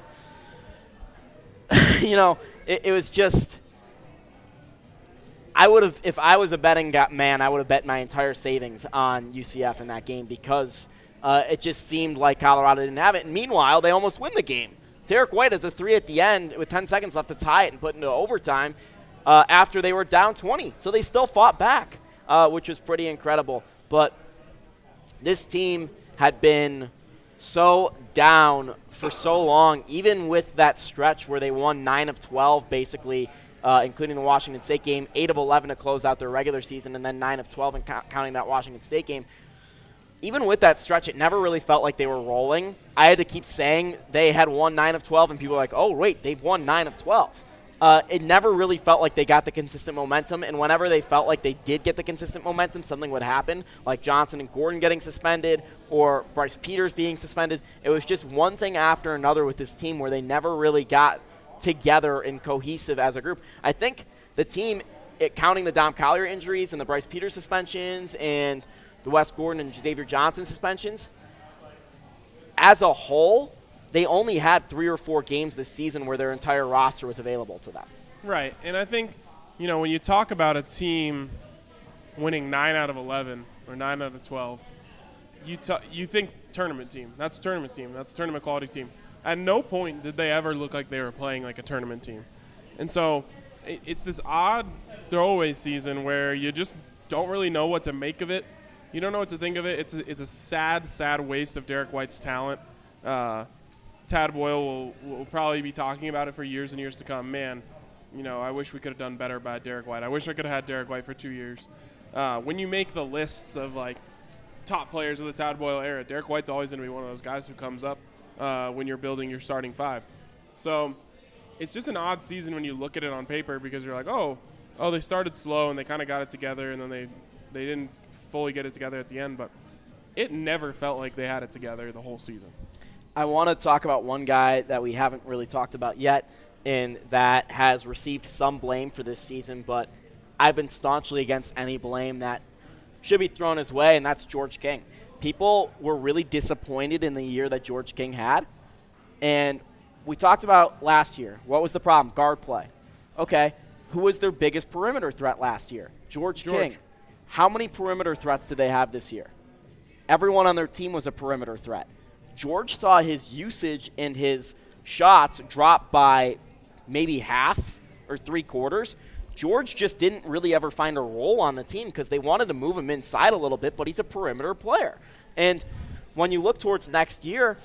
it was just – I would have – if I was a betting man, I would have bet my entire savings on UCF in that game because it just seemed like Colorado didn't have it. And meanwhile, they almost win the game. Derek White has a 3 at the end with 10 seconds left to tie it and put into overtime after they were down 20. So they still fought back, which was pretty incredible. But this team had been so down for so long, even with that stretch where they won 9 of 12 basically, including the Washington State game, 8 of 11 to close out their regular season, and then 9 of 12 counting that Washington State game. Even with that stretch, it never really felt like they were rolling. I had to keep saying they had won 9 of 12, and people were like, oh, wait, they've won 9 of 12. It never really felt like they got the consistent momentum, and whenever they felt like they did get the consistent momentum, something would happen, like Johnson and Gordon getting suspended or Bryce Peters being suspended. It was just one thing after another with this team where they never really got together and cohesive as a group. I think the team, counting the Dom Collier injuries and the Bryce Peters suspensions and the Wes Gordon and Xavier Johnson suspensions, as a whole, they only had 3 or 4 games this season where their entire roster was available to them.
Right, and I think, when you talk about a team winning 9 out of 11 or 9 out of 12, you think tournament team. That's a tournament team. That's a tournament quality team. At no point did they ever look like they were playing like a tournament team. And so it's this odd throwaway season where you just don't really know what to make of it. You don't know what to think of it. It's a sad, sad waste of Derek White's talent. Tad Boyle will probably be talking about it for years and years to come. Man, I wish we could have done better by Derek White. I wish I could have had Derek White for 2 years. When you make the lists of, top players of the Tad Boyle era, Derek White's always going to be one of those guys who comes up when you're building your starting 5. So it's just an odd season when you look at it on paper because you're like, oh, they started slow and they kind of got it together and then they didn't fully get it together at the end. But it never felt like they had it together the whole season.
I want to talk about one guy that we haven't really talked about yet and that has received some blame for this season, but I've been staunchly against any blame that should be thrown his way, and that's George King. People were really disappointed in the year that George King had, and we talked about last year. What was the problem? Guard play. Okay, who was their biggest perimeter threat last year? George King. How many perimeter threats did they have this year? Everyone on their team was a perimeter threat. George saw his usage and his shots drop by maybe half or 3/4. George just didn't really ever find a role on the team because they wanted to move him inside a little bit, but he's a perimeter player. And when you look towards next year,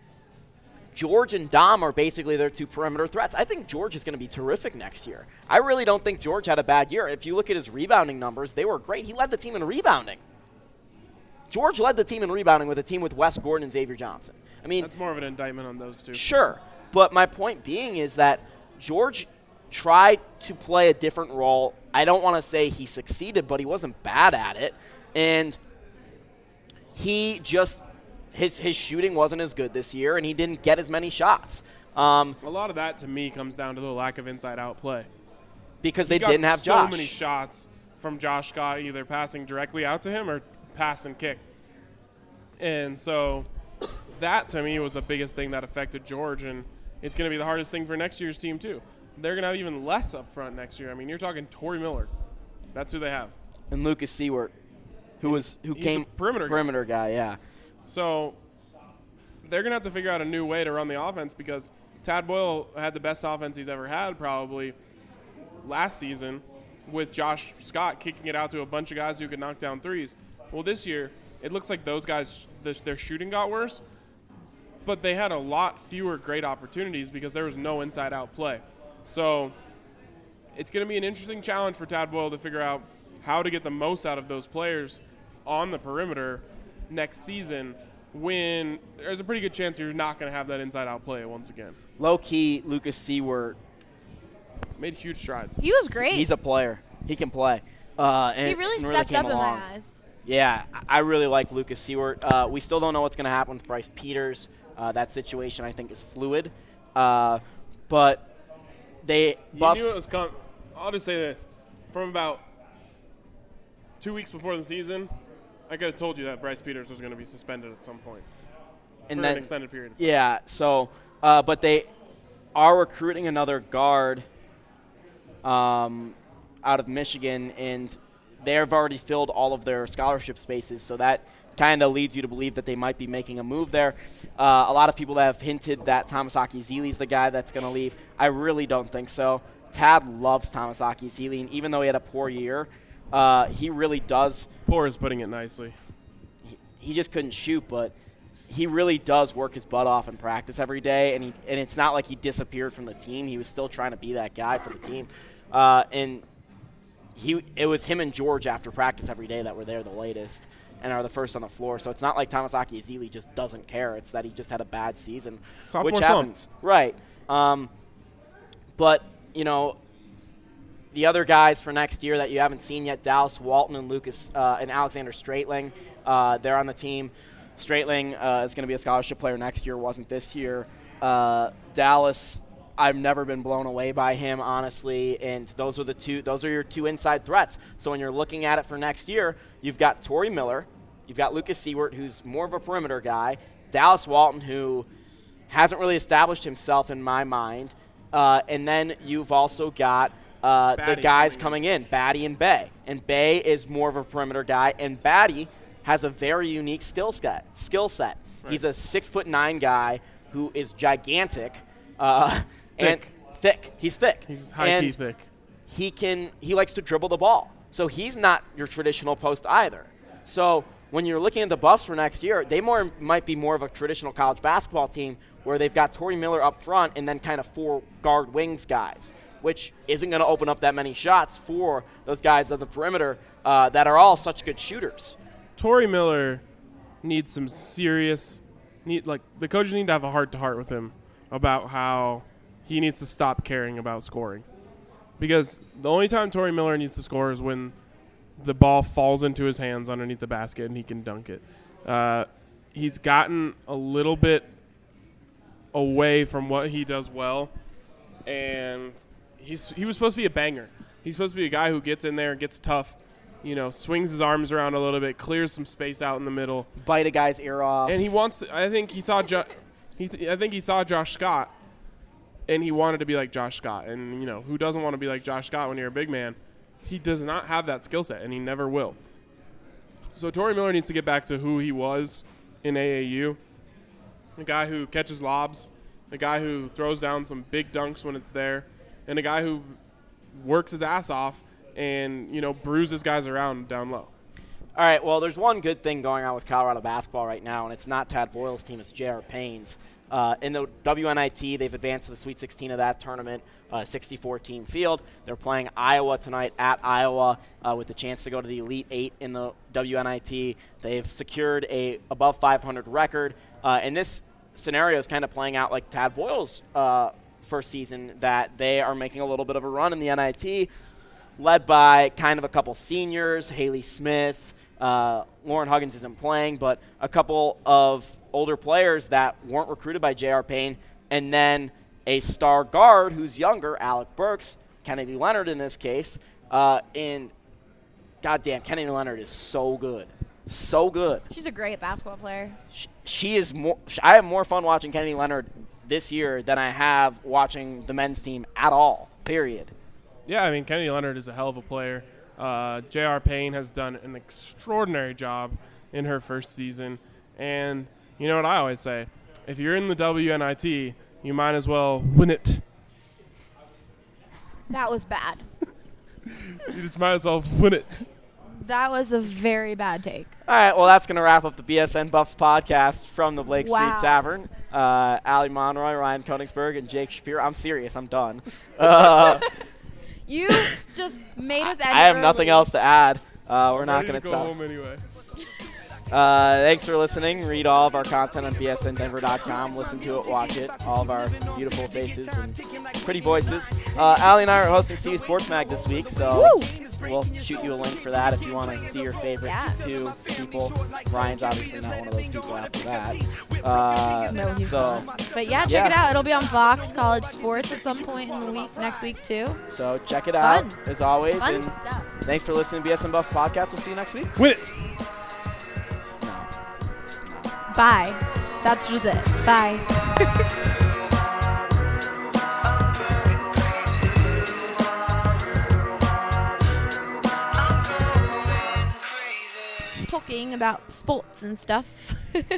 George and Dom are basically their 2 perimeter threats. I think George is going to be terrific next year. I really don't think George had a bad year. If you look at his rebounding numbers, they were great. He led the team in rebounding. George led the team in rebounding with a team with Wes Gordon and Xavier Johnson. I mean,
that's more of an indictment on those two.
Sure, but my point being is that George tried to play a different role. I don't want to say he succeeded, but he wasn't bad at it. And he just his shooting wasn't as good this year, and he didn't get as many shots.
A lot of that, to me, comes down to the lack of inside-out play.
Because they didn't have Josh.
So many shots from Josh Scott, either passing directly out to him or pass and kick. And so that, to me, was the biggest thing that affected George, and it's going to be the hardest thing for next year's team, too. They're going to have even less up front next year. I mean, you're talking Torrey Miller. That's who they have.
And Lucas Seward,
he's
came
a perimeter
guy, yeah.
So they're going to have to figure out a new way to run the offense because Tad Boyle had the best offense he's ever had probably last season with Josh Scott kicking it out to a bunch of guys who could knock down threes. Well, this year, it looks like those guys, their shooting got worse, but they had a lot fewer great opportunities because there was no inside-out play. So it's going to be an interesting challenge for Tad Boyle to figure out how to get the most out of those players on the perimeter next season when there's a pretty good chance you're not going to have that inside-out play once again.
Low-key, Lucas Seward
made huge strides.
He was great.
He's a player. He can play.
He really stepped up in my eyes.
Yeah, I really like Lucas Seward. We still don't know what's going to happen with Bryce Peters. That situation, I think, is fluid. But
you knew it was coming. I'll just say this. From about 2 weeks before the season, I could have told you that Bryce Peters was going to be suspended at some point for an extended period.
Yeah, so but they are recruiting another guard out of Michigan, and they have already filled all of their scholarship spaces, so that kind of leads you to believe that they might be making a move there. A lot of people have hinted that Thomas-Aki Zeele's the guy that's going to leave. I really don't think so. Tad loves Thomas-Aki Zeele, and even though he had a poor year, he really does.
Poor is putting it nicely.
He just couldn't shoot, but he really does work his butt off in practice every day, and it's not like he disappeared from the team. He was still trying to be that guy for the team. And it was him and George after practice every day that were there the latest and are the first on the floor. So it's not like Thomas-Aki Zeele just doesn't care. It's that he just had a bad season,
sophomore
which happens. Right. But, the other guys for next year that you haven't seen yet, Dallas Walton and and Alexander Straitling, they're on the team. Straitling is going to be a scholarship player next year, wasn't this year. Dallas, I've never been blown away by him, honestly, and those are your two inside threats. So when you're looking at it for next year, you've got Torrey Miller, you've got Lucas Seward, who's more of a perimeter guy, Dallas Walton, who hasn't really established himself in my mind, and then you've also got the guys coming in, Batty and Bay. And Bay is more of a perimeter guy, and Batty has a very unique skill set. Right. He's a 6'9" guy who is gigantic and thick. He's thick.
He's high-key thick.
He likes to dribble the ball. So he's not your traditional post either. So when you're looking at the Buffs for next year, they might be more of a traditional college basketball team where they've got Tory Miller up front and then kind of 4 guard wings guys, which isn't going to open up that many shots for those guys on the perimeter that are all such good shooters.
Tory Miller needs some serious the coaches need to have a heart-to-heart with him about how he needs to stop caring about scoring. Because the only time Tory Miller needs to score is when the ball falls into his hands underneath the basket and he can dunk it. He's gotten a little bit away from what he does well, and he was supposed to be a banger. He's supposed to be a guy who gets in there, gets tough, swings his arms around a little bit, clears some space out in the middle,
bite a guy's ear off.
And he wants to. I think he saw Josh Scott, and he wanted to be like Josh Scott. And who doesn't want to be like Josh Scott when you're a big man? He does not have that skill set, and he never will. So Tory Miller needs to get back to who he was in AAU, a guy who catches lobs, a guy who throws down some big dunks when it's there, and a guy who works his ass off and bruises guys around down low.
All right, well, there's one good thing going on with Colorado basketball right now, and it's not Tad Boyle's team, it's J.R. Payne's. In the WNIT, they've advanced to the Sweet 16 of that tournament, 64-team field. They're playing Iowa tonight at Iowa with the chance to go to the Elite Eight in the WNIT. They've secured a above 500 record, and this scenario is kind of playing out like Tad Boyle's first season, that they are making a little bit of a run in the NIT, led by kind of a couple seniors, Haley Smith, Lauren Huggins isn't playing, but a couple of older players that weren't recruited by J.R. Payne, and then a star guard who's younger, Alec Burks, Kennedy Leonard in this case, and goddamn, Kennedy Leonard is so good. So good.
She's a great basketball player.
She is more. I have more fun watching Kennedy Leonard this year than I have watching the men's team at all, period.
Yeah, I mean, Kennedy Leonard is a hell of a player. J.R. Payne has done an extraordinary job in her first season. And you know what I always say? If you're in the WNIT, you might as well win it.
That was bad.
You just might as well win it.
That was a very bad take.
All right, well, that's going to wrap up the BSN Buffs podcast from the Blake Street Tavern. Allie Monroy, Ryan Koenigsberg, and Jake Shapiro. I'm serious. I'm done.
You just made us end
I have
early.
Nothing else to add. We're not going to
go home anyway.
Thanks for listening. Read all of our content on bsndenver.com. Listen to it, watch it. All of our beautiful faces and pretty voices. Allie and I are hosting CU Sports Mag this week, so we'll shoot you a link for that if you want to see your favorite two people. Ryan's obviously not one of those people after that.
No, he's not. But check it out. It'll be on Fox College Sports at some point in the week, next week too.
So check it out, as always.
Fun
and
stuff.
Thanks for listening to BSN Buffs Podcast. We'll see you next week.
Win it!
Bye. That's just it. Bye. Talking about sports and stuff.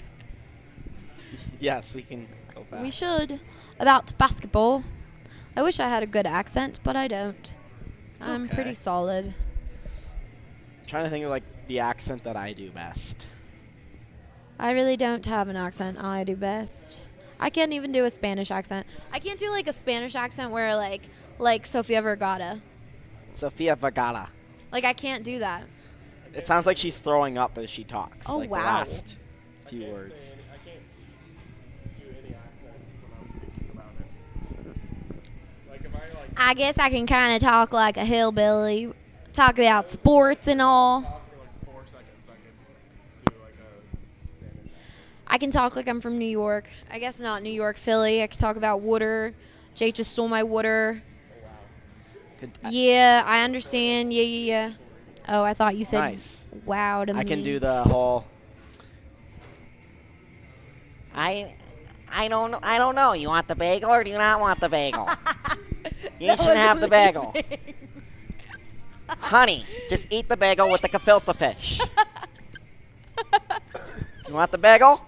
Yes, we can go back.
We should. About basketball. I wish I had a good accent, but I don't. I'm pretty solid.
I'm trying to think of the accent that I do best.
I really don't have an accent I do best. I can't even do a Spanish accent. I can't do a Spanish accent where like Sofia Vergara.
Sofia Vergara.
I can't do that.
It sounds like she's throwing up as she talks.
Oh,
the
wow.
last few words.
I can't do any accent when I'm thinking about it. If
I guess I can kind of talk like a hillbilly, talk about sports and all.
talk for 4 seconds, I can do a Spanish.
I can talk like I'm from New York. I guess not New York, Philly. I can talk about water. Jake just stole my water. Yeah, I understand. Yeah. Oh, I thought you said
nice.
wow to me.
I can do the whole
I don't know. You want the bagel or do you not want the bagel? You shouldn't have the bagel. Honey, just eat the bagel with the gefilte fish. You want the bagel?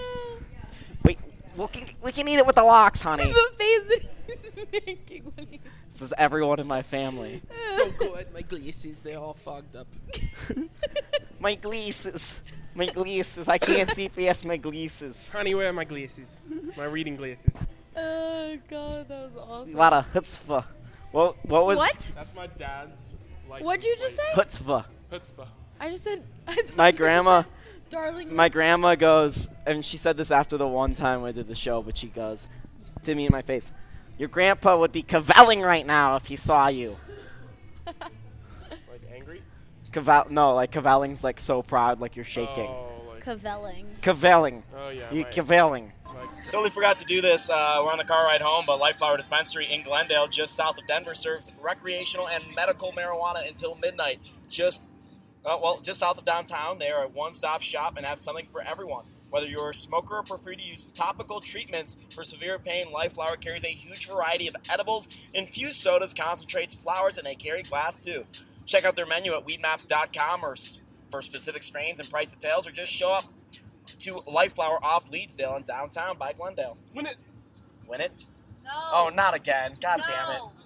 We can eat it with the lox, honey.
The face that he's making when he's...
This is everyone in my family.
Don't go at my glasses. They're all fogged up.
My glasses. My glasses. I can't see past my glasses.
Honey, where are my glasses? My reading glasses.
Oh, God, that was awesome.
A lot of chutzpah. What was...
What?
That's my dad's license
What'd you just say?
Chutzpah.
Chutzpah.
I just said...
My grandma...
Darling.
My grandma goes, and she said this after the one time I did the show, but she goes to me in my face, your grandpa would be cavelling right now if he saw you.
Like angry?
No, like cavelling's like so proud, like you're shaking.
Oh, like,
Cavelling.
Cavelling.
oh yeah.
You
my-
cavelling.
like,
Totally forgot to do this. We're on the car ride home, but Life Flower Dispensary in Glendale, just south of Denver, serves recreational and medical marijuana until midnight. Just south of downtown. They are a one-stop shop and have something for everyone. Whether you're a smoker or prefer to use topical treatments for severe pain, Life Flower carries a huge variety of edibles, infused sodas, concentrates, flowers, and they carry glass too. Check out their menu at weedmaps.com or for specific strains and price details, or just show up to Life Flower off Leedsdale in downtown by Glendale.
Win it.
Win it?
No.
Oh, not again. God damn it.